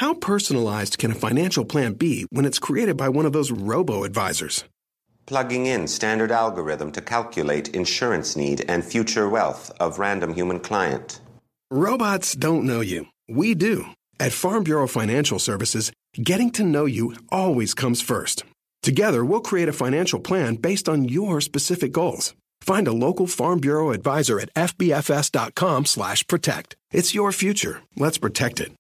How personalized can a financial plan be when it's created by one of those robo-advisors? Plugging in standard algorithm to calculate insurance need and future wealth of random human client. Robots don't know you. We do. At Farm Bureau Financial Services, getting to know you always comes first. Together, we'll create a financial plan based on your specific goals. Find a local Farm Bureau advisor at fbfs.com/protect. It's your future. Let's protect it.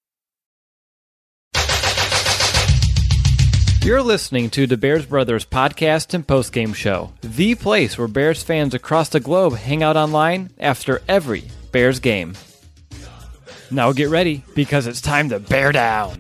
You're listening to the Bears Brothers podcast and postgame show, the place where Bears fans across the globe hang out online after every Bears game. Now get ready, because it's time to bear down.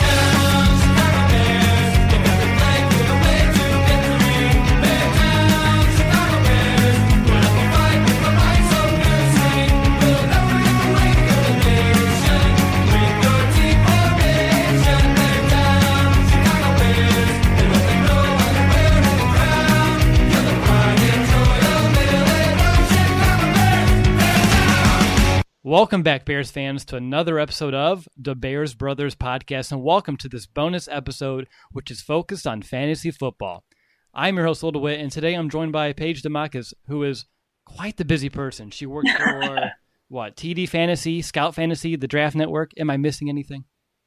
Welcome back, Bears fans, to another episode of the Bears Brothers podcast, and welcome to this bonus episode, which is focused on fantasy football. I'm your host, Will DeWitt, and today I'm joined by Paige DeMacas, who is quite the busy person. She works for, TD Fantasy, Scout Fantasy, the Draft Network. Am I missing anything?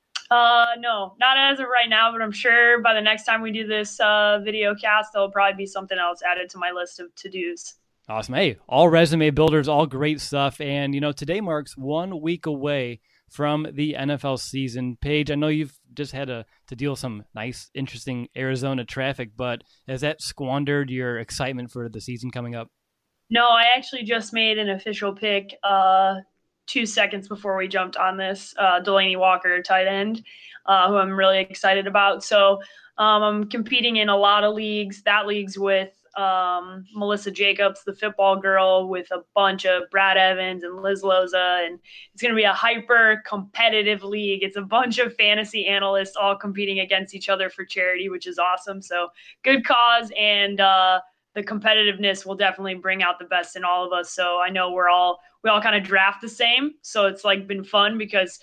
No, not as of right now, but I'm sure by the next time we do this video cast, there'll probably be something else added to my list of to-dos. Awesome. Hey, all resume builders, all great stuff. And, today marks 1 week away from the NFL season. Paige, I know you've just had to deal with some nice, interesting Arizona traffic, but has that squandered your excitement for the season coming up? No, I actually just made an official pick 2 seconds before we jumped on this, Delaney Walker, tight end, who I'm really excited about. So I'm competing in a lot of leagues. That league's with Melissa Jacobs, the football girl, with a bunch of Brad Evans and Liz Loza, and it's going to be a hyper competitive league. It's a bunch of fantasy analysts all competing against each other for charity, which is awesome. So good cause, and the competitiveness will definitely bring out the best in all of us. So I know we all kind of draft the same. So it's been fun because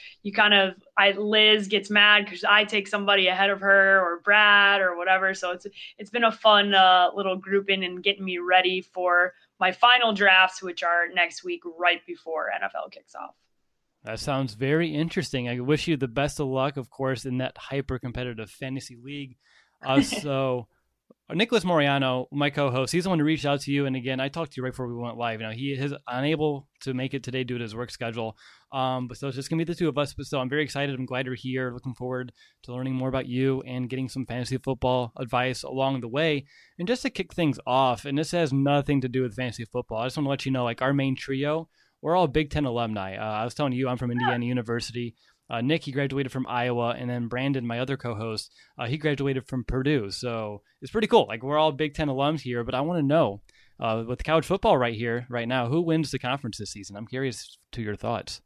Liz gets mad because I take somebody ahead of her, or Brad, or whatever. So it's been a fun little grouping and getting me ready for my final drafts, which are next week right before NFL kicks off. That sounds very interesting. I wish you the best of luck, of course, in that hyper competitive fantasy league. So Nicholas Moriano, my co-host, he's the one who reached out to you. And again, I talked to you right before we went live. He is unable to make it today due to his work schedule. But so it's just going to be the two of us. But still, I'm very excited. I'm glad you're here. Looking forward to learning more about you and getting some fantasy football advice along the way. And just to kick things off, and this has nothing to do with fantasy football, I just want to let you know, our main trio, we're all Big Ten alumni. I was telling you, I'm from Indiana University. Nick, he graduated from Iowa, and then Brandon, my other co-host, he graduated from Purdue. So it's pretty cool. We're all Big Ten alums here, but I want to know, with college football right now, who wins the conference this season? I'm curious to your thoughts.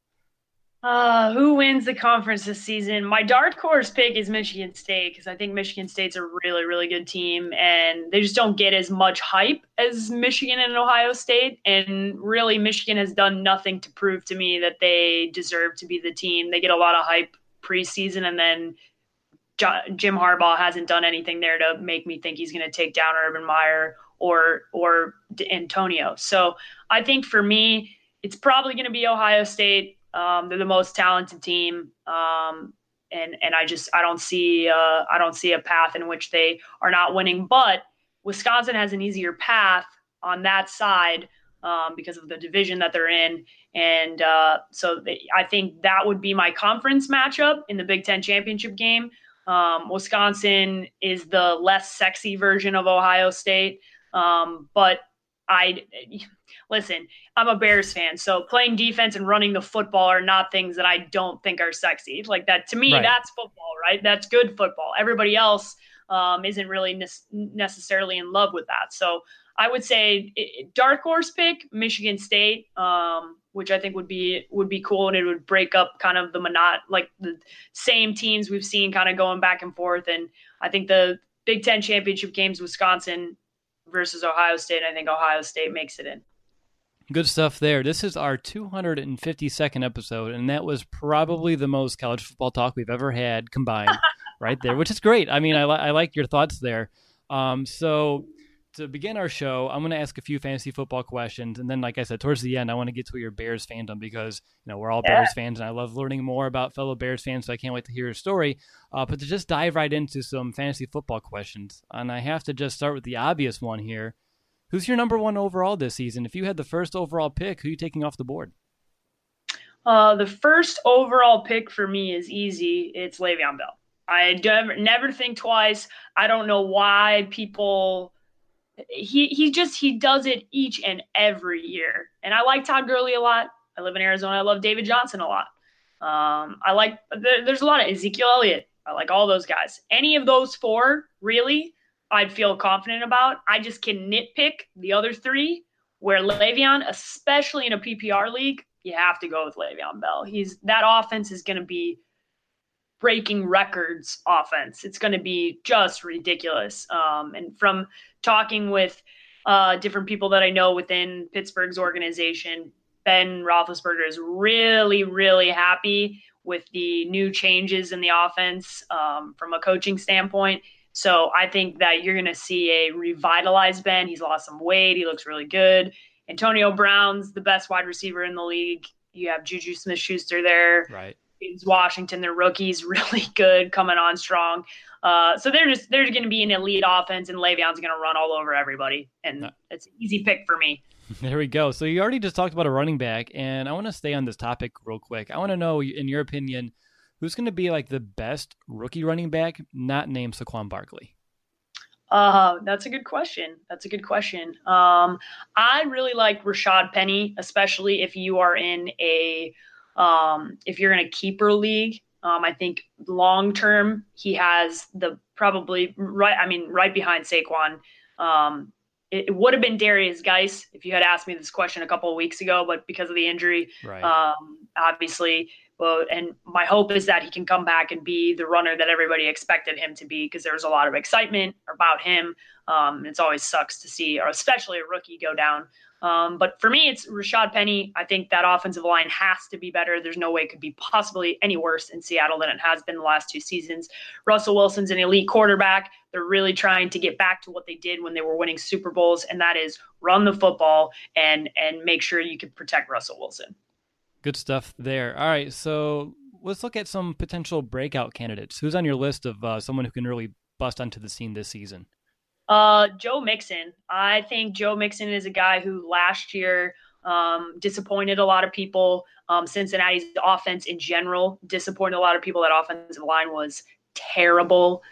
Who wins the conference this season? My dark horse pick is Michigan State, because I think Michigan State's a really, really good team, and they just don't get as much hype as Michigan and Ohio State. And really, Michigan has done nothing to prove to me that they deserve to be the team. They get a lot of hype preseason, and then Jim Harbaugh hasn't done anything there to make me think he's going to take down Urban Meyer or Antonio. So I think for me, it's probably going to be Ohio State. They're the most talented team, and I don't see a path in which they are not winning. But Wisconsin has an easier path on that side because of the division that they're in, and I think that would be my conference matchup in the Big Ten championship game. Wisconsin is the less sexy version of Ohio State, but listen, I'm a Bears fan, so playing defense and running the football are not things that I don't think are sexy. That to me, right. That's football, right? That's good football. Everybody else isn't really necessarily in love with that. So I would say dark horse pick Michigan State, which I think would be cool, and it would break up kind of the same teams we've seen kind of going back and forth. And I think the Big Ten championship games, Wisconsin versus Ohio State, I think Ohio State makes it in. Good stuff there. This is our 252nd episode, and that was probably the most college football talk we've ever had combined right there, which is great. I mean, I like your thoughts there. So to begin our show, I'm going to ask a few fantasy football questions, and then, like I said, towards the end, I want to get to your Bears fandom because, we're all Bears fans, and I love learning more about fellow Bears fans, so I can't wait to hear your story. But to just dive right into some fantasy football questions, and I have to just start with the obvious one here. Who's your number one overall this season? If you had the first overall pick, who are you taking off the board? The first overall pick for me is easy. It's Le'Veon Bell. I never think twice. I don't know why people he does it each and every year. And I like Todd Gurley a lot. I live in Arizona. I love David Johnson a lot. There's a lot of Ezekiel Elliott. I like all those guys. Any of those four, really, I'd feel confident about. I just can nitpick the other three, where Le'Veon, especially in a PPR league, you have to go with Le'Veon Bell. That offense is going to be breaking records offense. It's going to be just ridiculous. And from talking with different people that I know within Pittsburgh's organization, Ben Roethlisberger is really, really happy with the new changes in the offense from a coaching standpoint. So I think that you're going to see a revitalized Ben. He's lost some weight. He looks really good. Antonio Brown's the best wide receiver in the league. You have Juju Smith-Schuster there. Right. James Washington, their rookies, really good, coming on strong. So they're going to be an elite offense, and Le'Veon's going to run all over everybody. And it's an easy pick for me. There we go. So you already just talked about a running back, and I want to stay on this topic real quick. I want to know, in your opinion, who's going to be like the best rookie running back not named Saquon Barkley? That's a good question. I really like Rashad Penny, especially if you are in if you're in a keeper league. I think long term he has right behind Saquon. It would have been Darius Geis if you had asked me this question a couple of weeks ago, but because of the injury, right. Obviously. And my hope is that he can come back and be the runner that everybody expected him to be, because there was a lot of excitement about him. It's always sucks to see, or especially a rookie, go down. But for me, it's Rashad Penny. I think that offensive line has to be better. There's no way it could be possibly any worse in Seattle than it has been the last two seasons. Russell Wilson's an elite quarterback. They're really trying to get back to what they did when they were winning Super Bowls, and that is run the football and make sure you can protect Russell Wilson. Good stuff there. All right, so let's look at some potential breakout candidates. Who's on your list of someone who can really bust onto the scene this season? Joe Mixon. I think Joe Mixon is a guy who last year disappointed a lot of people. Cincinnati's offense in general disappointed a lot of people. That offensive line was terrible.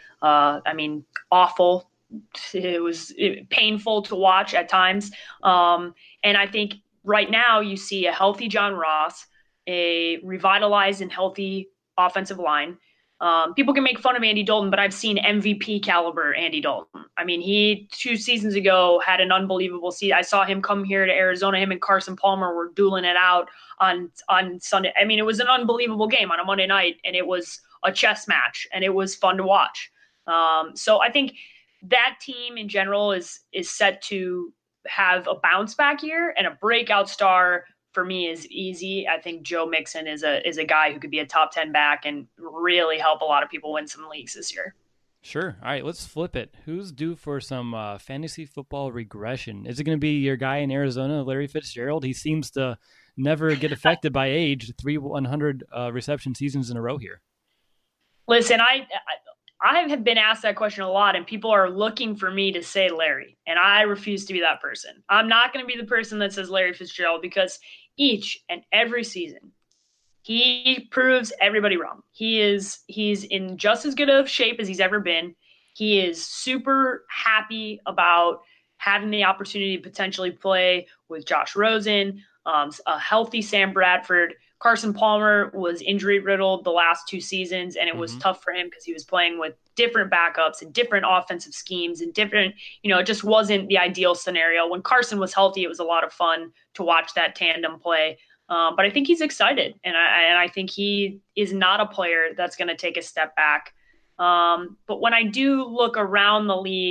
Awful. It was painful to watch at times. And I think right now you see a healthy John Ross, a revitalized and healthy offensive line. People can make fun of Andy Dalton, but I've seen MVP caliber Andy Dalton. I mean, he 2 seasons ago had an unbelievable season. I saw him come here to Arizona. Him and Carson Palmer were dueling it out on Sunday. I mean, it was an unbelievable game on a Monday night, and it was a chess match, and it was fun to watch. So I think that team in general is set to have a bounce back year, and a breakout star for me is easy. I think Joe Mixon is a guy who could be a top 10 back and really help a lot of people win some leagues this year. Sure. All right, let's flip it. Who's due for some fantasy football regression? Is it going to be your guy in Arizona, Larry Fitzgerald? He seems to never get affected by age. 3 100 reception seasons in a row here. Listen, I have been asked that question a lot, and people are looking for me to say Larry, and I refuse to be that person. I'm not going to be the person that says Larry Fitzgerald, because each and every season he proves everybody wrong. He's in just as good of shape as he's ever been. He is super happy about having the opportunity to potentially play with Josh Rosen, a healthy Sam Bradford. Carson Palmer was injury riddled the last 2 seasons, and it was tough for him because he was playing with different backups and different offensive schemes and different, it just wasn't the ideal scenario. When Carson was healthy, it was a lot of fun to watch that tandem play. But I think he's excited, and I think he is not a player that's going to take a step back. But when I do look around the league,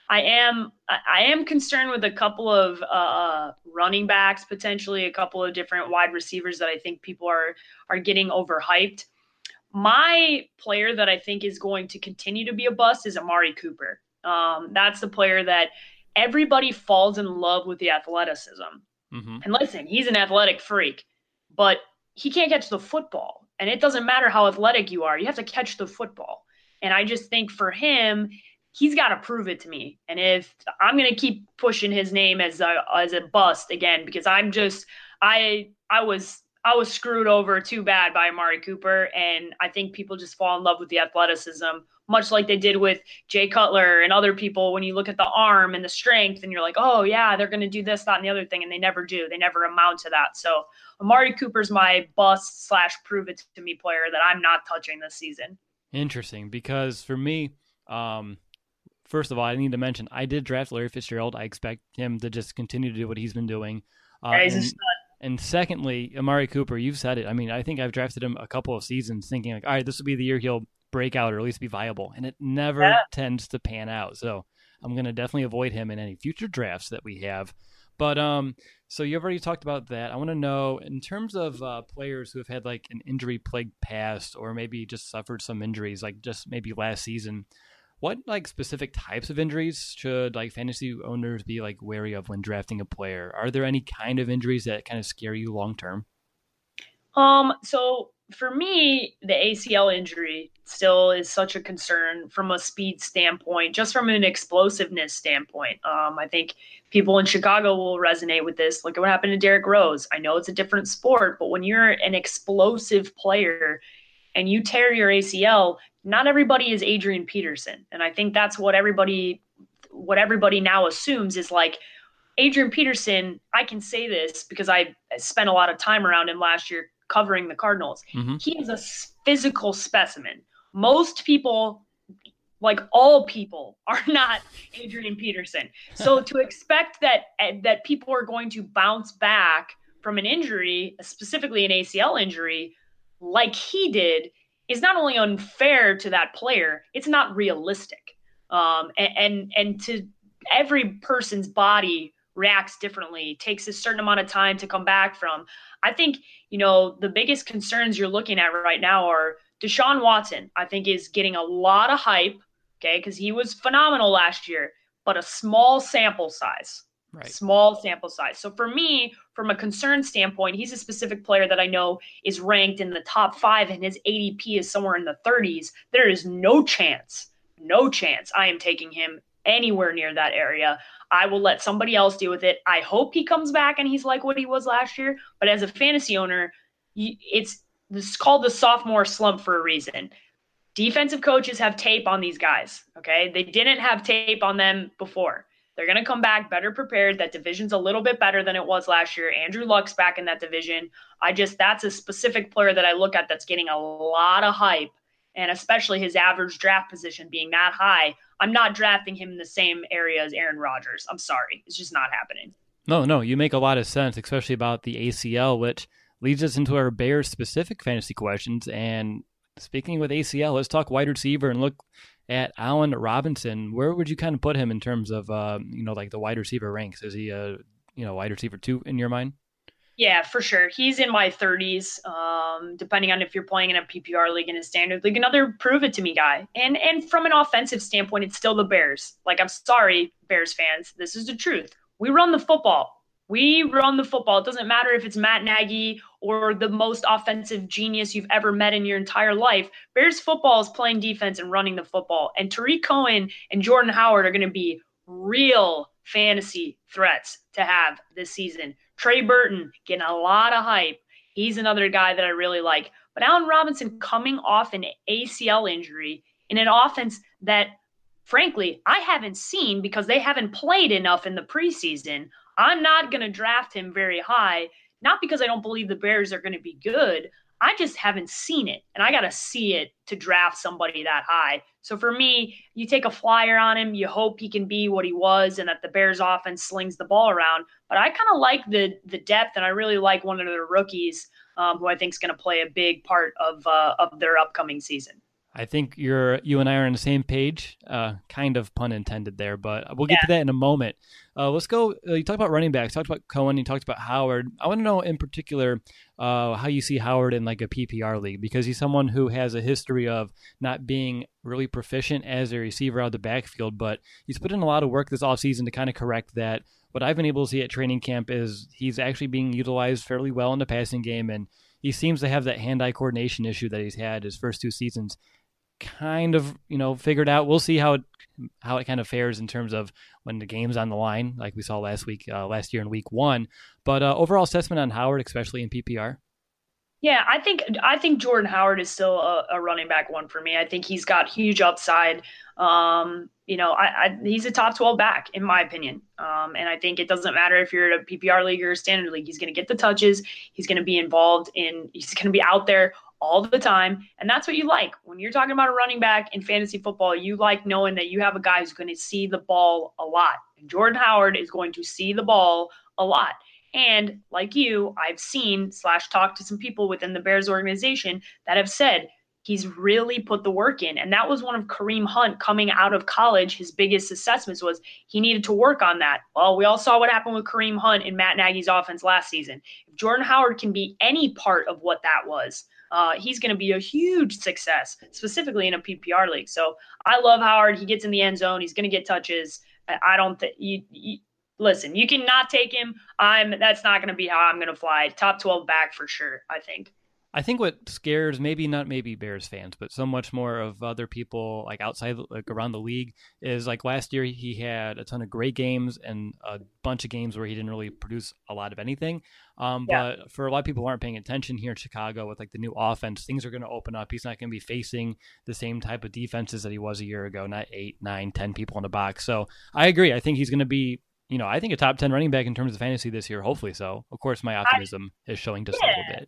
I am concerned with a couple of running backs, potentially a couple of different wide receivers that I think people are getting overhyped. My player that I think is going to continue to be a bust is Amari Cooper. That's the player that everybody falls in love with the athleticism. Mm-hmm. And listen, he's an athletic freak, but he can't catch the football. And it doesn't matter how athletic you are, you have to catch the football. And I just think for him, he's got to prove it to me. And if I'm going to keep pushing his name as a bust again, because I was screwed over too bad by Amari Cooper, and I think people just fall in love with the athleticism, much like they did with Jay Cutler and other people. When you look at the arm and the strength, and you're like, oh yeah, they're going to do this, that, and the other thing, and they never do. They never amount to that. So Amari Cooper's my bust / prove it to me player that I'm not touching this season. Interesting, because for me, first of all, I need to mention I did draft Larry Fitzgerald. I expect him to just continue to do what he's been doing. He's a stud. And secondly, Amari Cooper, you've said it. I mean, I think I've drafted him a couple of seasons thinking like, all right, this will be the year he'll break out or at least be viable. And it never tends to pan out. So I'm going to definitely avoid him in any future drafts that we have. But so you've already talked about that. I want to know, in terms of players who have had like an injury-plagued past or maybe just suffered some injuries, like just maybe last season, what like specific types of injuries should like fantasy owners be like wary of when drafting a player? Are there any kind of injuries that kind of scare you long term? So for me, the ACL injury still is such a concern from a speed standpoint, just from an explosiveness standpoint. I think people in Chicago will resonate with this. Look at what happened to Derrick Rose. I know it's a different sport, but when you're an explosive player and you tear your ACL, not everybody is Adrian Peterson. And I think that's what everybody now assumes is like Adrian Peterson. I can say this because I spent a lot of time around him last year covering the Cardinals. Mm-hmm. He is a physical specimen. Most people, like all people, are not Adrian Peterson. So to expect that people are going to bounce back from an injury, specifically an ACL injury, like he did, is not only unfair to that player, it's not realistic. And to every person's body reacts differently, takes a certain amount of time to come back from. I think, the biggest concerns you're looking at right now are Deshaun Watson, I think, is getting a lot of hype, okay, because he was phenomenal last year, but a small sample size. Right. Small sample size. So for me, from a concern standpoint, he's a specific player that I know is ranked in the top 5 and his ADP is somewhere in the 30s. There is no chance I am taking him anywhere near that area. I will let somebody else deal with it. I hope he comes back and he's like what he was last year. But as a fantasy owner, it's called the sophomore slump for a reason. Defensive coaches have tape on these guys, okay? They didn't have tape on them before. They're going to come back better prepared. That division's a little bit better than it was last year. Andrew Luck's back in that division. That's a specific player that I look at that's getting a lot of hype, and especially his average draft position being that high. I'm not drafting him in the same area as Aaron Rodgers. I'm sorry. It's just not happening. No, you make a lot of sense, especially about the ACL, which leads us into our Bears-specific fantasy questions. And speaking with ACL, let's talk wide receiver and look at Allen Robinson. Where would you kind of put him in terms of, like the wide receiver ranks? Is he a, wide receiver 2 in your mind? Yeah, for sure. He's in my 30s, depending on if you're playing in a PPR league and a standard league. Another prove it to me guy. And from an offensive standpoint, it's still the Bears. Like, I'm sorry, Bears fans. This is the truth. We run the football. It doesn't matter if it's Matt Nagy or the most offensive genius you've ever met in your entire life. Bears football is playing defense and running the football. And Tariq Cohen and Jordan Howard are going to be real fantasy threats to have this season. Trey Burton getting a lot of hype. He's another guy that I really like. But Allen Robinson coming off an ACL injury in an offense that, frankly, I haven't seen because they haven't played enough in the preseason. I'm not going to draft him very high, not because I don't believe the Bears are going to be good. I just haven't seen it, and I got to see it to draft somebody that high. So for me, you take a flyer on him, you hope he can be what he was and that the Bears offense slings the ball around. But I kind of like the depth, and I really like one of their rookies who I think is going to play a big part of their upcoming season. I think you and I are on the same page, kind of pun intended there, but we'll get to that in a moment. Let's go. You talked about running backs, talked about Cohen, you talked about Howard. I want to know in particular how you see Howard in like a PPR league, because he's someone who has a history of not being really proficient as a receiver out of the backfield, but he's put in a lot of work this offseason to kind of correct that. What I've been able to see at training camp is he's actually being utilized fairly well in the passing game, and he seems to have that hand-eye coordination issue that he's had his first 2 seasons kind of, figured out. We'll see how it kind of fares in terms of when the game's on the line, like we saw last year in week 1. But overall assessment on Howard, especially in PPR. Yeah, I think Jordan Howard is still a running back one for me. I think he's got huge upside. He's a top 12 back in my opinion. And I think it doesn't matter if you're in a PPR league or a standard league. He's going to get the touches. He's going to be involved he's going to be out there all the time. And that's what you like. When you're talking about a running back in fantasy football, you like knowing that you have a guy who's going to see the ball a lot. And Jordan Howard is going to see the ball a lot. And like you, I've seen / talked to some people within the Bears organization that have said he's really put the work in. And that was one of Kareem Hunt coming out of college. His biggest assessments was he needed to work on that. Well, we all saw what happened with Kareem Hunt in Matt Nagy's offense last season. If Jordan Howard can be any part of what that was, he's going to be a huge success, specifically in a PPR league. So I love Howard. He gets in the end zone. He's going to get touches. I don't think listen, you cannot take him. That's not going to be how I'm going to fly. Top 12 back for sure, I think. I think what scares not maybe Bears fans, but so much more of other people like outside, like around the league, is like last year he had a ton of great games and a bunch of games where he didn't really produce a lot of anything. But for a lot of people who aren't paying attention here in Chicago with like the new offense, things are going to open up. He's not going to be facing the same type of defenses that he was a year ago, not 8, 9, 10 people in the box. So I agree. I think he's going to be, I think a top 10 running back in terms of fantasy this year, hopefully so. Of course, my optimism is showing just a little bit.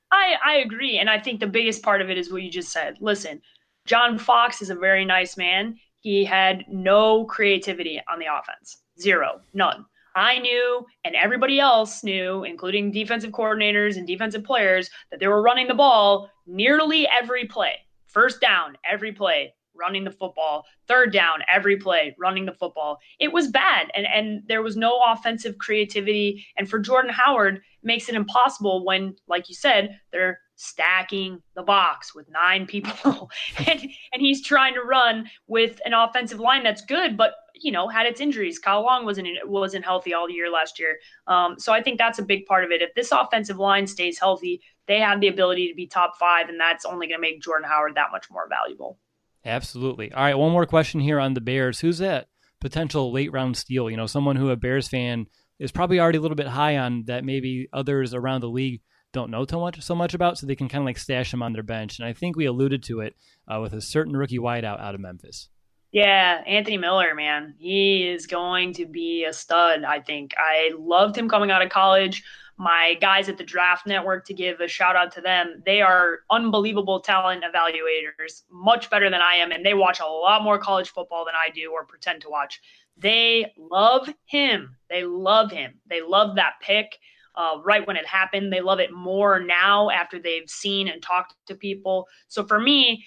I agree. And I think the biggest part of it is what you just said. Listen, John Fox is a very nice man. He had no creativity on the offense. 0, none. I knew, and everybody else knew, including defensive coordinators and defensive players, that they were running the ball nearly every play. First down, every play, running the football. Third down, every play, running the football. It was bad, and there was no offensive creativity. And for Jordan Howard, it makes it impossible when, like you said, they're stacking the box with 9 people, and he's trying to run with an offensive line that's good, but had its injuries. Kyle Long wasn't healthy all year last year. So I think that's a big part of it. If this offensive line stays healthy, they have the ability to be top 5, and that's only going to make Jordan Howard that much more valuable. Absolutely. All right, one more question here on the Bears. Who's that potential late round steal? Someone who a Bears fan is probably already a little bit high on that maybe others around the league don't know so much about, so they can kind of like stash him on their bench. And I think we alluded to it with a certain rookie wideout out of Memphis. Yeah, Anthony Miller, man. He is going to be a stud, I think. I loved him coming out of college. My guys at the Draft Network, to give a shout out to them, they are unbelievable talent evaluators, much better than I am, and they watch a lot more college football than I do or pretend to watch. They love him. They love him. They love that pick right when it happened. They love it more now after they've seen and talked to people. So for me,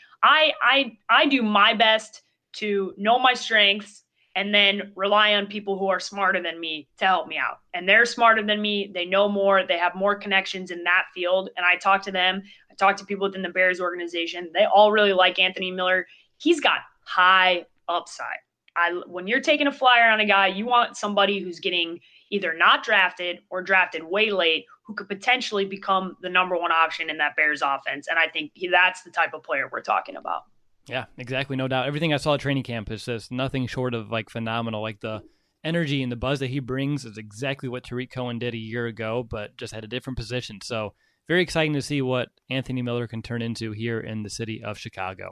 I do my best to know my strengths and then rely on people who are smarter than me to help me out. And they're smarter than me. They know more. They have more connections in that field. And I talk to them. I talk to people within the Bears organization. They all really like Anthony Miller. He's got high upside. When you're taking a flyer on a guy, you want somebody who's getting either not drafted or drafted way late, who could potentially become the number 1 option in that Bears offense. And I think that's the type of player we're talking about. Yeah, exactly. No doubt. Everything I saw at training camp is just nothing short of like phenomenal. Like the energy and the buzz that he brings is exactly what Tariq Cohen did a year ago, but just had a different position. So very exciting to see what Anthony Miller can turn into here in the city of Chicago.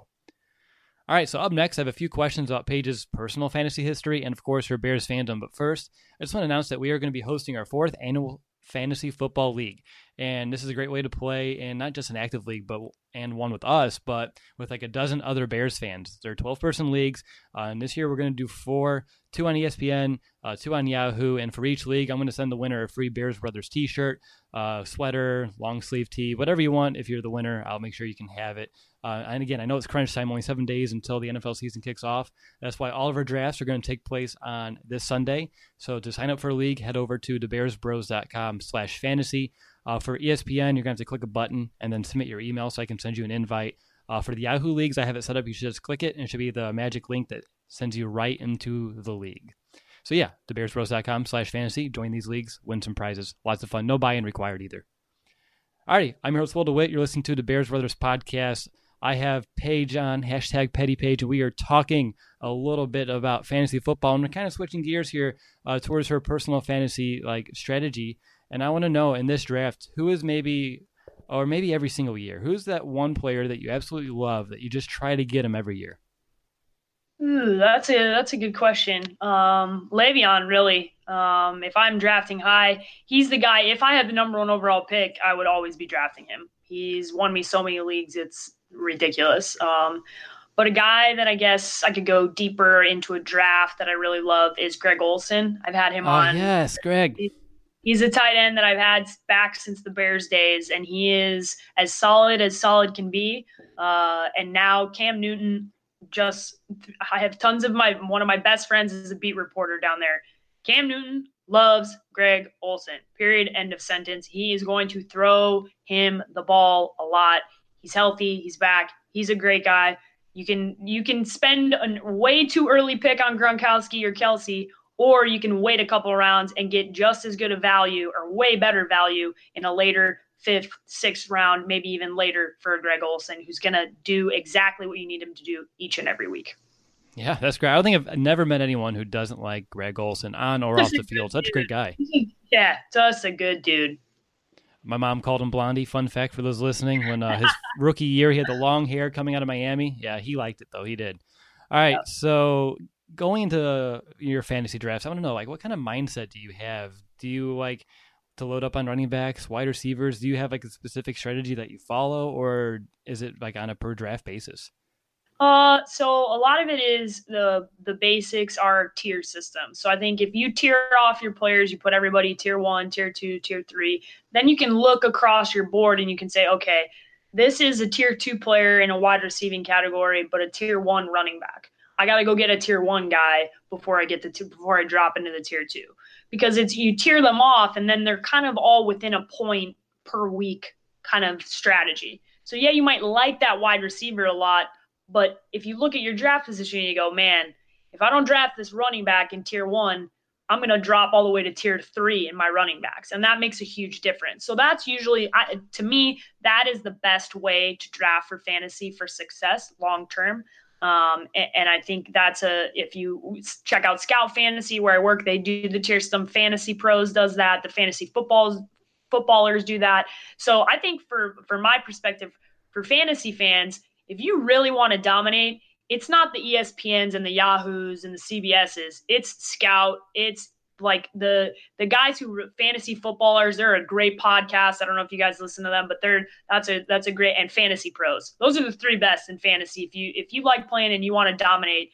All right, so up next, I have a few questions about Paige's personal fantasy history and, of course, her Bears fandom. But first, I just want to announce that we are going to be hosting our 4th annual Fantasy Football League. And this is a great way to play, and not just an active league, and one with us, but with like a dozen other Bears fans. They're 12-person leagues, and this year we're going to do 4, 2 on ESPN, 2 on Yahoo, and for each league, I'm going to send the winner a free Bears Brothers t-shirt, sweater, long sleeve tee, whatever you want. If you're the winner, I'll make sure you can have it. And again, I know it's crunch time, only 7 days until the NFL season kicks off. That's why all of our drafts are going to take place on this Sunday. So to sign up for a league, head over to thebearsbros.com/fantasy. For ESPN, you're going to have to click a button and then submit your email so I can send you an invite. For the Yahoo leagues, I have it set up. You should just click it, and it should be the magic link that sends you right into the league. So yeah, thebearsbros.com/fantasy. Join these leagues, win some prizes. Lots of fun. No buy-in required either. Alrighty, I'm your host, Will DeWitt. You're listening to the Bears Brothers podcast. I have Paige on, #PettyPage, and we are talking a little bit about fantasy football, and we're kind of switching gears here towards her personal fantasy strategy. And I want to know, in this draft, who is maybe every single year, who's that one player that you absolutely love that you just try to get him every year? Ooh, that's a good question. Le'Veon, really. If I'm drafting high, he's the guy. If I had the number 1 overall pick, I would always be drafting him. He's won me so many leagues, it's ridiculous. But a guy that I guess I could go deeper into a draft that I really love is Greg Olsen. I've had him on. Yes, Greg. He's a tight end that I've had back since the Bears days, and he is as solid can be. And now Cam Newton, I have tons of one of my best friends is a beat reporter down there. Cam Newton loves Greg Olsen, period, end of sentence. He is going to throw him the ball a lot. He's healthy. He's back. He's a great guy. You can spend a way too early pick on Gronkowski or Kelsey, or you can wait a couple rounds and get just as good a value or way better value in a later 5th, 6th round, maybe even later for Greg Olsen, who's going to do exactly what you need him to do each and every week. Yeah, that's great. I don't think I've never met anyone who doesn't like Greg Olsen on or off the field. Such a great guy. Yeah, just a good dude. My mom called him Blondie. Fun fact for those listening, when his rookie year, he had the long hair coming out of Miami. Yeah, he liked it, though. He did. All right, So going into your fantasy drafts, I want to know, what kind of mindset do you have? Do you like to load up on running backs, wide receivers? Do you have a specific strategy that you follow, or is it on a per draft basis? So a lot of it is the basics are tier systems. So I think if you tier off your players, you put everybody tier 1, tier 2, tier 3, then you can look across your board and you can say, okay, this is a tier 2 player in a wide receiving category, but a tier 1 running back. I got to go get a tier 1 guy before I drop into the tier 2, because you tier them off and then they're kind of all within a point per week kind of strategy. So yeah, you might like that wide receiver a lot, but if you look at your draft position and you go, man, if I don't draft this running back in tier 1, I'm going to drop all the way to tier 3 in my running backs. And that makes a huge difference. So that's usually, to me, that is the best way to draft for fantasy for success long-term. And I think if you check out Scout Fantasy where I work, they do the tier system. Fantasy Pros does that. The fantasy footballers do that. So I think for my perspective, for fantasy fans, if you really want to dominate, it's not the ESPNs and the Yahoos and the CBSs. It's Scout. It's like the guys who fantasy footballers. They're a great podcast. I don't know if you guys listen to them, but that's a great, and Fantasy Pros. Those are the 3 best in fantasy. If you like playing and you want to dominate,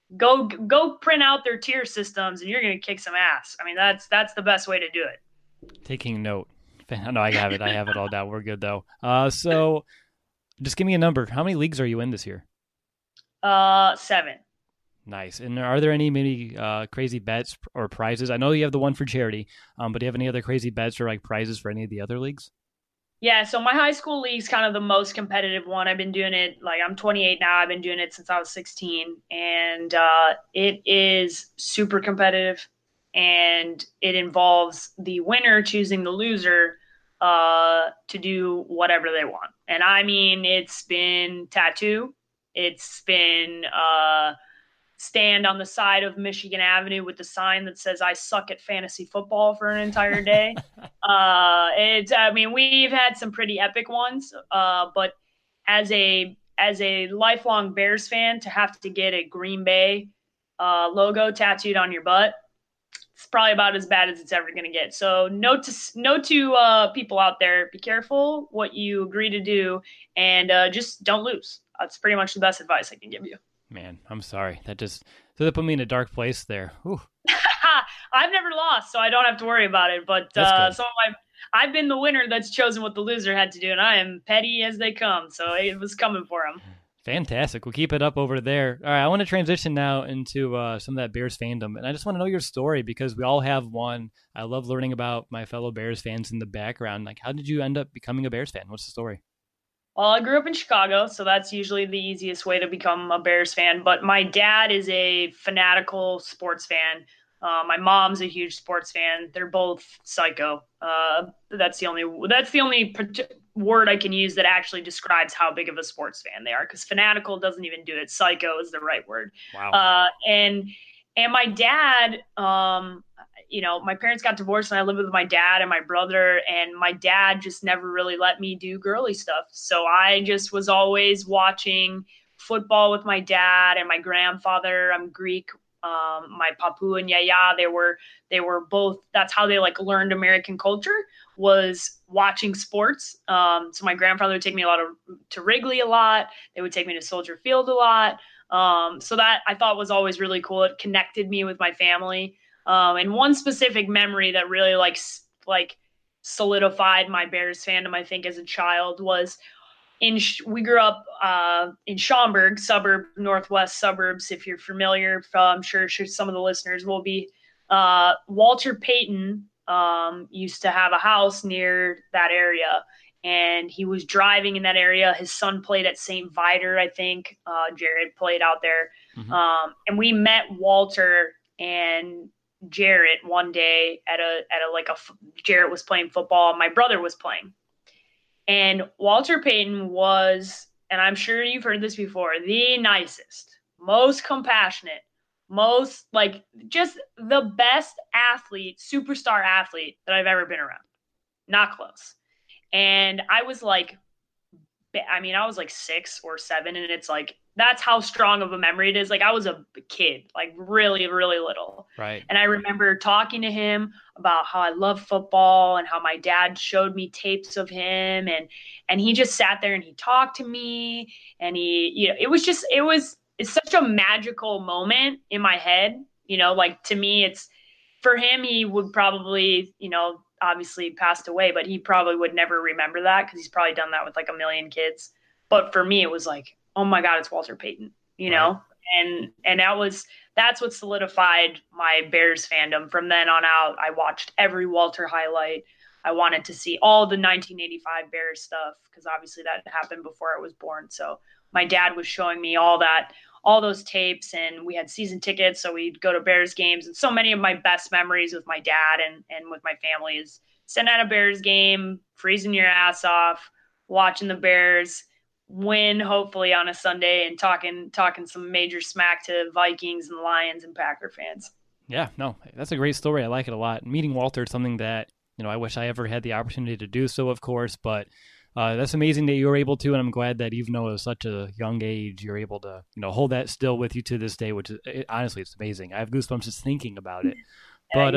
go print out their tier systems and you're going to kick some ass. I mean, that's the best way to do it. Taking note. No, I have it. I have it all down. We're good though. So just give me a number. How many leagues are you in this year? 7. Nice. And are there any maybe crazy bets or prizes? I know you have the one for charity, but do you have any other crazy bets or prizes for any of the other leagues? Yeah, so my high school league's kind of the most competitive one. I've been doing it, I'm 28 now. I've been doing it since I was 16, and it is super competitive, and it involves the winner choosing the loser to do whatever they want. And I mean, it's been tattoo. It's been stand on the side of Michigan Avenue with the sign that says "I suck at fantasy football" for an entire day. We've had some pretty epic ones, but as a lifelong Bears fan, to have to get a Green Bay logo tattooed on your butt it's probably about as bad as it's ever going to get. So note to people out there, be careful what you agree to do, and just don't lose. That's pretty much the best advice I can give you. Man, I'm sorry. That put me in a dark place there. Whew. I've never lost, so I don't have to worry about it. But I've been the winner that's chosen what the loser had to do, and I am petty as they come. So it was coming for him. Fantastic. We'll keep it up over there. All right, I want to transition now into some of that Bears fandom, and I just want to know your story because we all have one. I love learning about my fellow Bears fans in the background. Like, how did you end up becoming a Bears fan? What's the story? Well, I grew up in Chicago, so that's usually the easiest way to become a Bears fan. But my dad is a fanatical sports fan. My mom's a huge sports fan. They're both psycho. That's the only word I can use that actually describes how big of a sports fan they are, because fanatical doesn't even do it. Psycho is the right word. Wow. And my dad, my parents got divorced and I lived with my dad and my brother, and my dad just never really let me do girly stuff. So I just was always watching football with my dad and my grandfather. I'm Greek. My papu and yaya, they were both, that's how they like learned American culture, was watching sports. So my grandfather would take me to Wrigley a lot. They would take me to Soldier Field a lot. So that I thought was always really cool. It connected me with my family. And one specific memory that really like solidified my Bears fandom, I think, as a child was we grew up in Schaumburg, northwest suburbs. If you're familiar, I'm sure some of the listeners will be. Walter Payton used to have a house near that area, and he was driving in that area. His son played at St. Viator, I think. Jared played out there. Mm-hmm. And we met Walter and Jarrett one day at Jarrett was playing football. My brother was playing. And Walter Payton was, and I'm sure you've heard this before, the nicest, most compassionate, most like just the best athlete, superstar athlete that I've ever been around. Not close. And I was like 6 or 7, and it's like, that's how strong of a memory it is. Like, I was a kid, like really, really little. Right. And I remember talking to him about how I love football and how my dad showed me tapes of him. And he just sat there and he talked to me, and it's such a magical moment in my head. Like, to me, for him, he would probably, obviously passed away, but he probably would never remember that because he's probably done that with like a million kids. But for me, it was like, oh my God, it's Walter Payton, know? And that's what solidified my Bears fandom. From then on out, I watched every Walter highlight. I wanted to see all the 1985 Bears stuff because obviously that happened before I was born. So my dad was showing me all those tapes, and we had season tickets. So we'd go to Bears games. And so many of my best memories with my dad and with my family is sitting at a Bears game, freezing your ass off, watching the Bears win, hopefully on a Sunday, and talking some major smack to Vikings and Lions and Packer fans. Yeah, no, that's a great story. I like it a lot. Meeting Walter is something that, I wish I ever had the opportunity to do so, of course, but that's amazing that you were able to, and I'm glad that even though at such a young age, you're able to, hold that still with you to this day, which is, honestly, it's amazing. I have goosebumps just thinking about it. But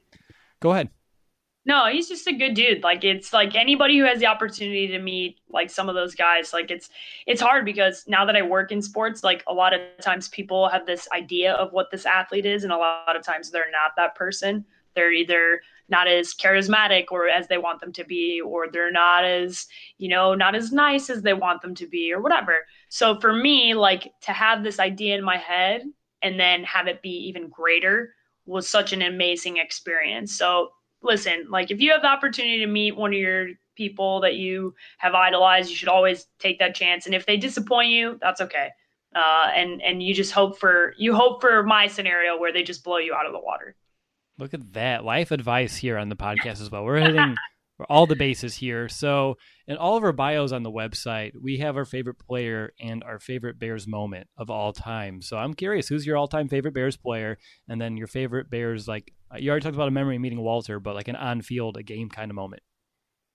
go ahead. No, he's just a good dude. Like, it's like anybody who has the opportunity to meet like some of those guys, like it's hard because now that I work in sports, like a lot of times people have this idea of what this athlete is, and a lot of times they're not that person. They're either not as charismatic or as they want them to be, or they're not as nice as they want them to be, or whatever. So for me, like, to have this idea in my head and then have it be even greater was such an amazing experience. So listen, like, if you have the opportunity to meet one of your people that you have idolized, you should always take that chance. And if they disappoint you, that's okay. And you just hope for my scenario where they just blow you out of the water. Look at that. Life advice here on the podcast as well. We're hitting all the bases here. So in all of our bios on the website, we have our favorite player and our favorite Bears moment of all time. So I'm curious, who's your all-time favorite Bears player? And then your favorite Bears, like, you already talked about a memory meeting Walter, but like an on-field, a game kind of moment.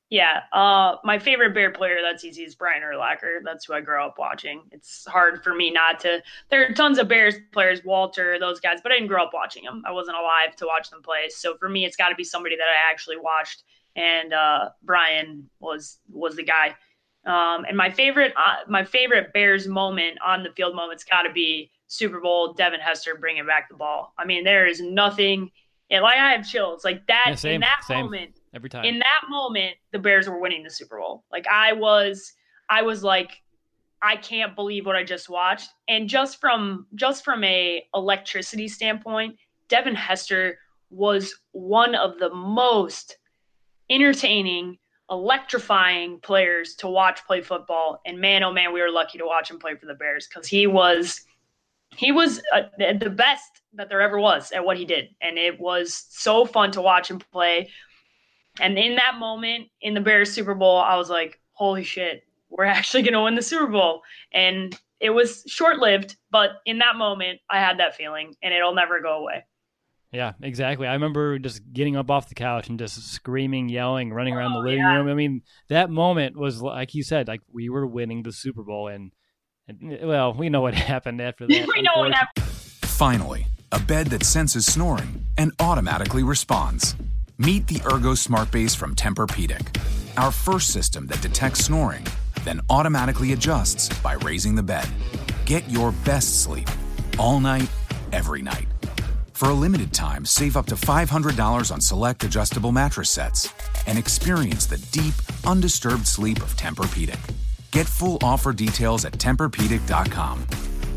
Yeah, my favorite Bear player, that's easy, is Brian Urlacher. That's who I grew up watching. It's hard for me not to. There are tons of Bears players, Walter, those guys, but I didn't grow up watching them. I wasn't alive to watch them play. So for me, it's got to be somebody that I actually watched, and Brian was the guy. And my favorite Bears moment on the field moment's got to be Super Bowl, Devin Hester bringing back the ball. I mean, there is nothing. And like I have chills like that. Yeah, in that same. moment. Every time. In that moment, the Bears were winning the Super Bowl. Like I was like, I can't believe what I just watched. And just from a electricity standpoint, Devin Hester was one of the most entertaining, electrifying players to watch play football. And man, oh man, we were lucky to watch him play for the Bears because he was the best that there ever was at what he did. And it was so fun to watch him play. And in that moment in the Bears Super Bowl, I was like, holy shit, we're actually going to win the Super Bowl. And it was short-lived, but in that moment, I had that feeling, and it'll never go away. Yeah, exactly. I remember just getting up off the couch and just screaming, yelling, running around the living room. I mean, that moment was, like you said, like we were winning the Super Bowl. And well, we know what happened after that. We know what happened. Finally, a bed that senses snoring and automatically responds. Meet the Ergo Smart Base from Tempur-Pedic, our first system that detects snoring, then automatically adjusts by raising the bed. Get your best sleep all night, every night. For a limited time, save up to $500 on select adjustable mattress sets and experience the deep, undisturbed sleep of Tempur-Pedic. Get full offer details at TempurPedic.com.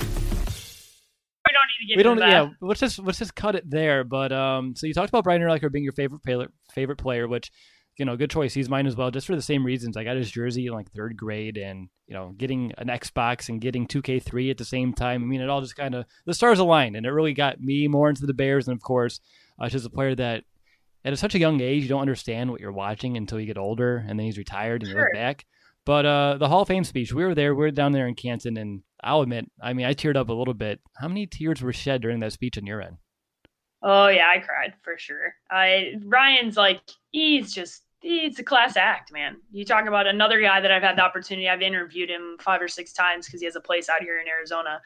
We don't. Yeah, let's just cut it there. But so you talked about Brian Urlacher being your favorite player, which, you know, good choice. He's mine as well, just for the same reasons. I got his jersey in like third grade, and you know, getting an Xbox and getting 2K3 at the same time. I mean, it all just kind of the stars aligned, and it really got me more into the Bears. And of course, just a player that at such a young age you don't understand what you're watching until you get older, and then he's retired and you look back. But the Hall of Fame speech, we were down there in Canton, and I'll admit, I mean, I teared up a little bit. How many tears were shed during that speech on your end? Oh yeah, I cried for sure. Ryan's like, he's a class act, man. You talk about another guy that I've had the opportunity. I've interviewed him 5 or 6 times because he has a place out here in Arizona,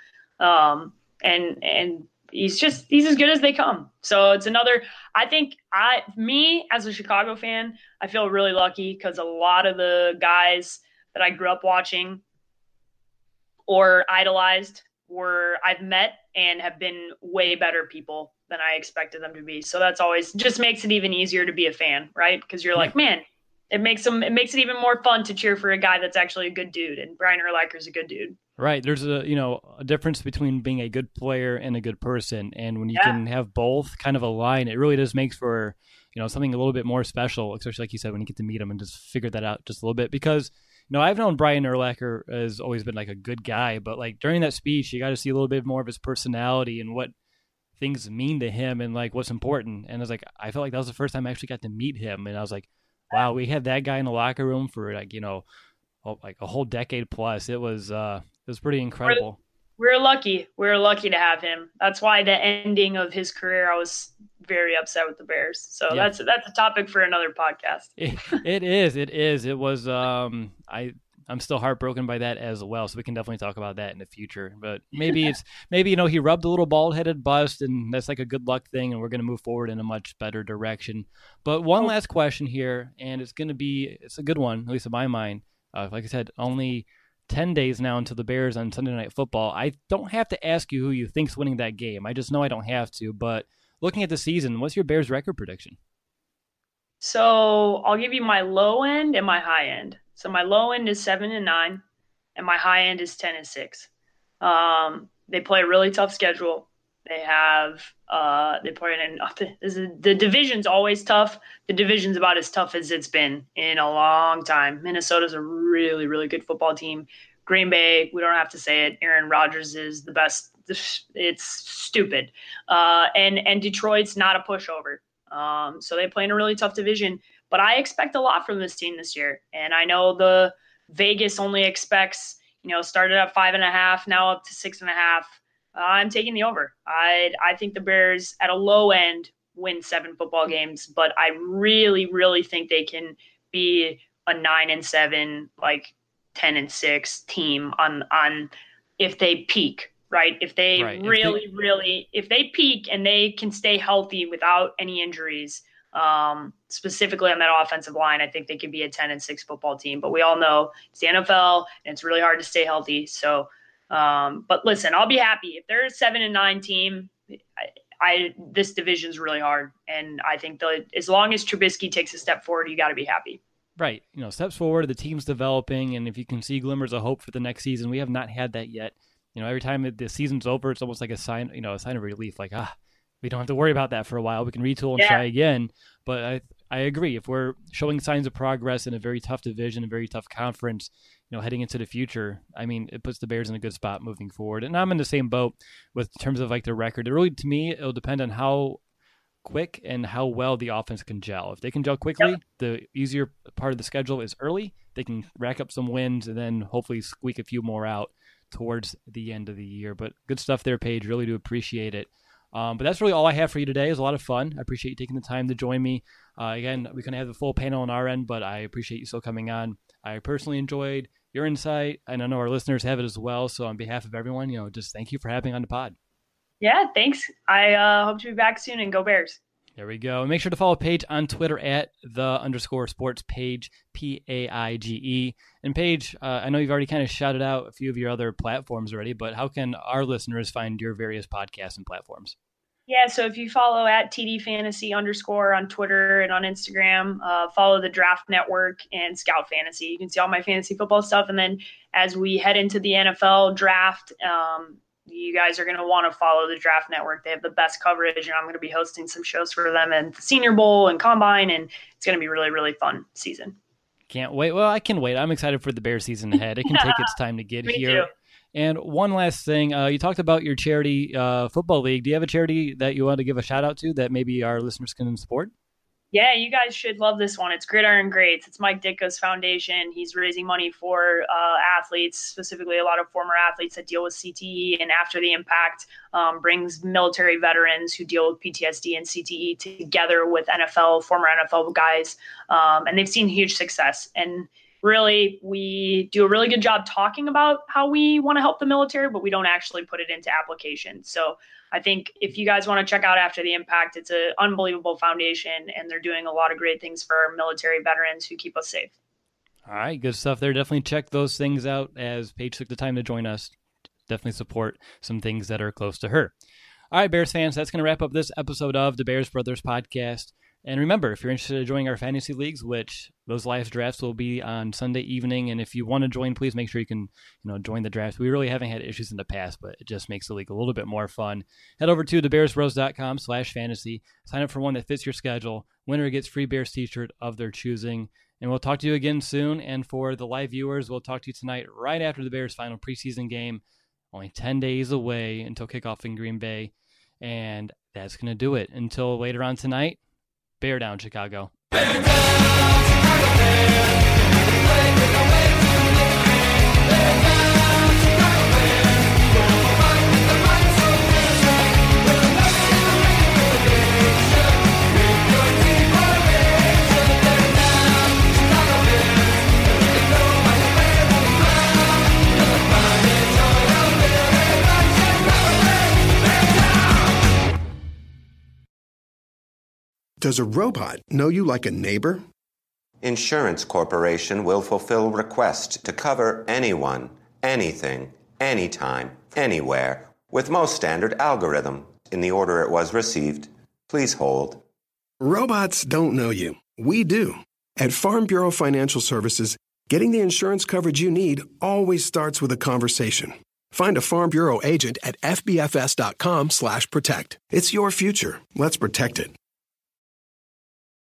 and he's as good as they come. So it's another. I think me as a Chicago fan, I feel really lucky because a lot of the guys that I grew up watching or idolized I've met and have been way better people than I expected them to be. So that's always just makes it even easier to be a fan, right? Because you're like, man, it makes it even more fun to cheer for a guy that's actually a good dude. And Brian Urlacher's a good dude. Right. There's a difference between being a good player and a good person. And when you can have both kind of align, it really just makes for, something a little bit more special, especially like you said, when you get to meet him and just figure that out just a little bit. Because I've known Brian Urlacher has always been like a good guy, but like during that speech, you got to see a little bit more of his personality and what things mean to him and like what's important. And I was like, I felt like that was the first time I actually got to meet him. And I was like, wow, we had that guy in the locker room for like a whole decade plus. It was pretty incredible. We're lucky. We're lucky to have him. That's why the ending of his career, I was very upset with the Bears. So that's a topic for another podcast. It is. It was. I'm still heartbroken by that as well. So we can definitely talk about that in the future. But maybe he rubbed a little bald-headed bust, and that's like a good luck thing, and we're going to move forward in a much better direction. But one last question here, and it's a good one, at least in my mind. Like I said, only 10 days now until the Bears on Sunday Night Football. I don't have to ask you who you think's winning that game. I just know I don't have to. But looking at the season, what's your Bears record prediction? So I'll give you my low end and my high end. So my low end is 7-9, and my high end is 10-6. They play a really tough schedule. The division's always tough. The division's about as tough as it's been in a long time. Minnesota's a really, really good football team. Green Bay, we don't have to say it. Aaron Rodgers is the best. It's stupid. And Detroit's not a pushover. So they play in a really tough division. But I expect a lot from this team this year. And I know the Vegas only expects, started at 5.5, now up to 6.5. I'm taking the over. I think the Bears at a low end win 7 football games, but I really, really think they can be a 9-7, like 10-6 team on if they peak, right? If they really, if they peak and they can stay healthy without any injuries, specifically on that offensive line, I think they could be a 10-6 football team. But we all know it's the NFL and it's really hard to stay healthy. So, but listen, I'll be happy if they're a 7-9 team. This division's really hard, and I think as long as Trubisky takes a step forward, you got to be happy. Right. Steps forward, the team's developing, and if you can see glimmers of hope for the next season, we have not had that yet. Every time the season's over, it's almost like a sign of relief. Like, we don't have to worry about that for a while. We can retool and try again. But I agree. If we're showing signs of progress in a very tough division, a very tough conference, heading into the future, I mean, it puts the Bears in a good spot moving forward. And I'm in the same boat with terms of like the record. It really, to me, it'll depend on how quick and how well the offense can gel. If they can gel quickly, the easier part of the schedule is early. They can rack up some wins and then hopefully squeak a few more out towards the end of the year. But good stuff there, Paige. Really do appreciate it. But that's really all I have for you today. It was a lot of fun. I appreciate you taking the time to join me. Again, we couldn't have the full panel on our end, but I appreciate you still coming on. I personally enjoyed your insight, and I know our listeners have it as well. So on behalf of everyone, just thank you for having me on the pod. Yeah, thanks. I hope to be back soon, and go Bears. There we go. And make sure to follow Paige on Twitter at @the_sports_Paige, Paige. And Paige, I know you've already kind of shouted out a few of your other platforms already, but how can our listeners find your various podcasts and platforms? Yeah, so if you follow @TDFantasy_ on Twitter and on Instagram, follow the Draft Network and Scout Fantasy. You can see all my fantasy football stuff. And then as we head into the NFL draft, you guys are going to want to follow the Draft Network. They have the best coverage, and I'm going to be hosting some shows for them and the Senior Bowl and Combine, and it's going to be really, really fun season. Can't wait. Well, I can wait. I'm excited for the Bears season ahead. It can take its time to get here. Too. And one last thing, you talked about your charity football league. Do you have a charity that you want to give a shout out to that maybe our listeners can support? Yeah, you guys should love this one. It's Gridiron Greats. It's Mike Ditka's foundation. He's raising money for athletes, specifically a lot of former athletes that deal with CTE and after the impact, brings military veterans who deal with PTSD and CTE together with former NFL guys. And they've seen huge success. And really, we do a really good job talking about how we want to help the military, but we don't actually put it into application. So I think if you guys want to check out After the Impact, it's an unbelievable foundation, and they're doing a lot of great things for our military veterans who keep us safe. All right, good stuff there. Definitely check those things out as Paige took the time to join us. Definitely support some things that are close to her. All right, Bears fans, that's going to wrap up this episode of the Bears Brothers Podcast. And remember, if you're interested in joining our fantasy leagues, which those live drafts will be on Sunday evening, and if you want to join, please make sure you can join the draft. We really haven't had issues in the past, but it just makes the league a little bit more fun. Head over to thebearsbros.com/fantasy. Sign up for one that fits your schedule. Winner gets free Bears t-shirt of their choosing. And we'll talk to you again soon. And for the live viewers, we'll talk to you tonight right after the Bears' final preseason game. Only 10 days away until kickoff in Green Bay. And that's going to do it. Until later on tonight. Bear down, Chicago. Bear down, Chicago Bears. Does a robot know you like a neighbor? Insurance Corporation will fulfill request to cover anyone, anything, anytime, anywhere, with most standard algorithm in the order it was received. Please hold. Robots don't know you. We do. At Farm Bureau Financial Services, getting the insurance coverage you need always starts with a conversation. Find a Farm Bureau agent at fbfs.com/protect. It's your future. Let's protect it.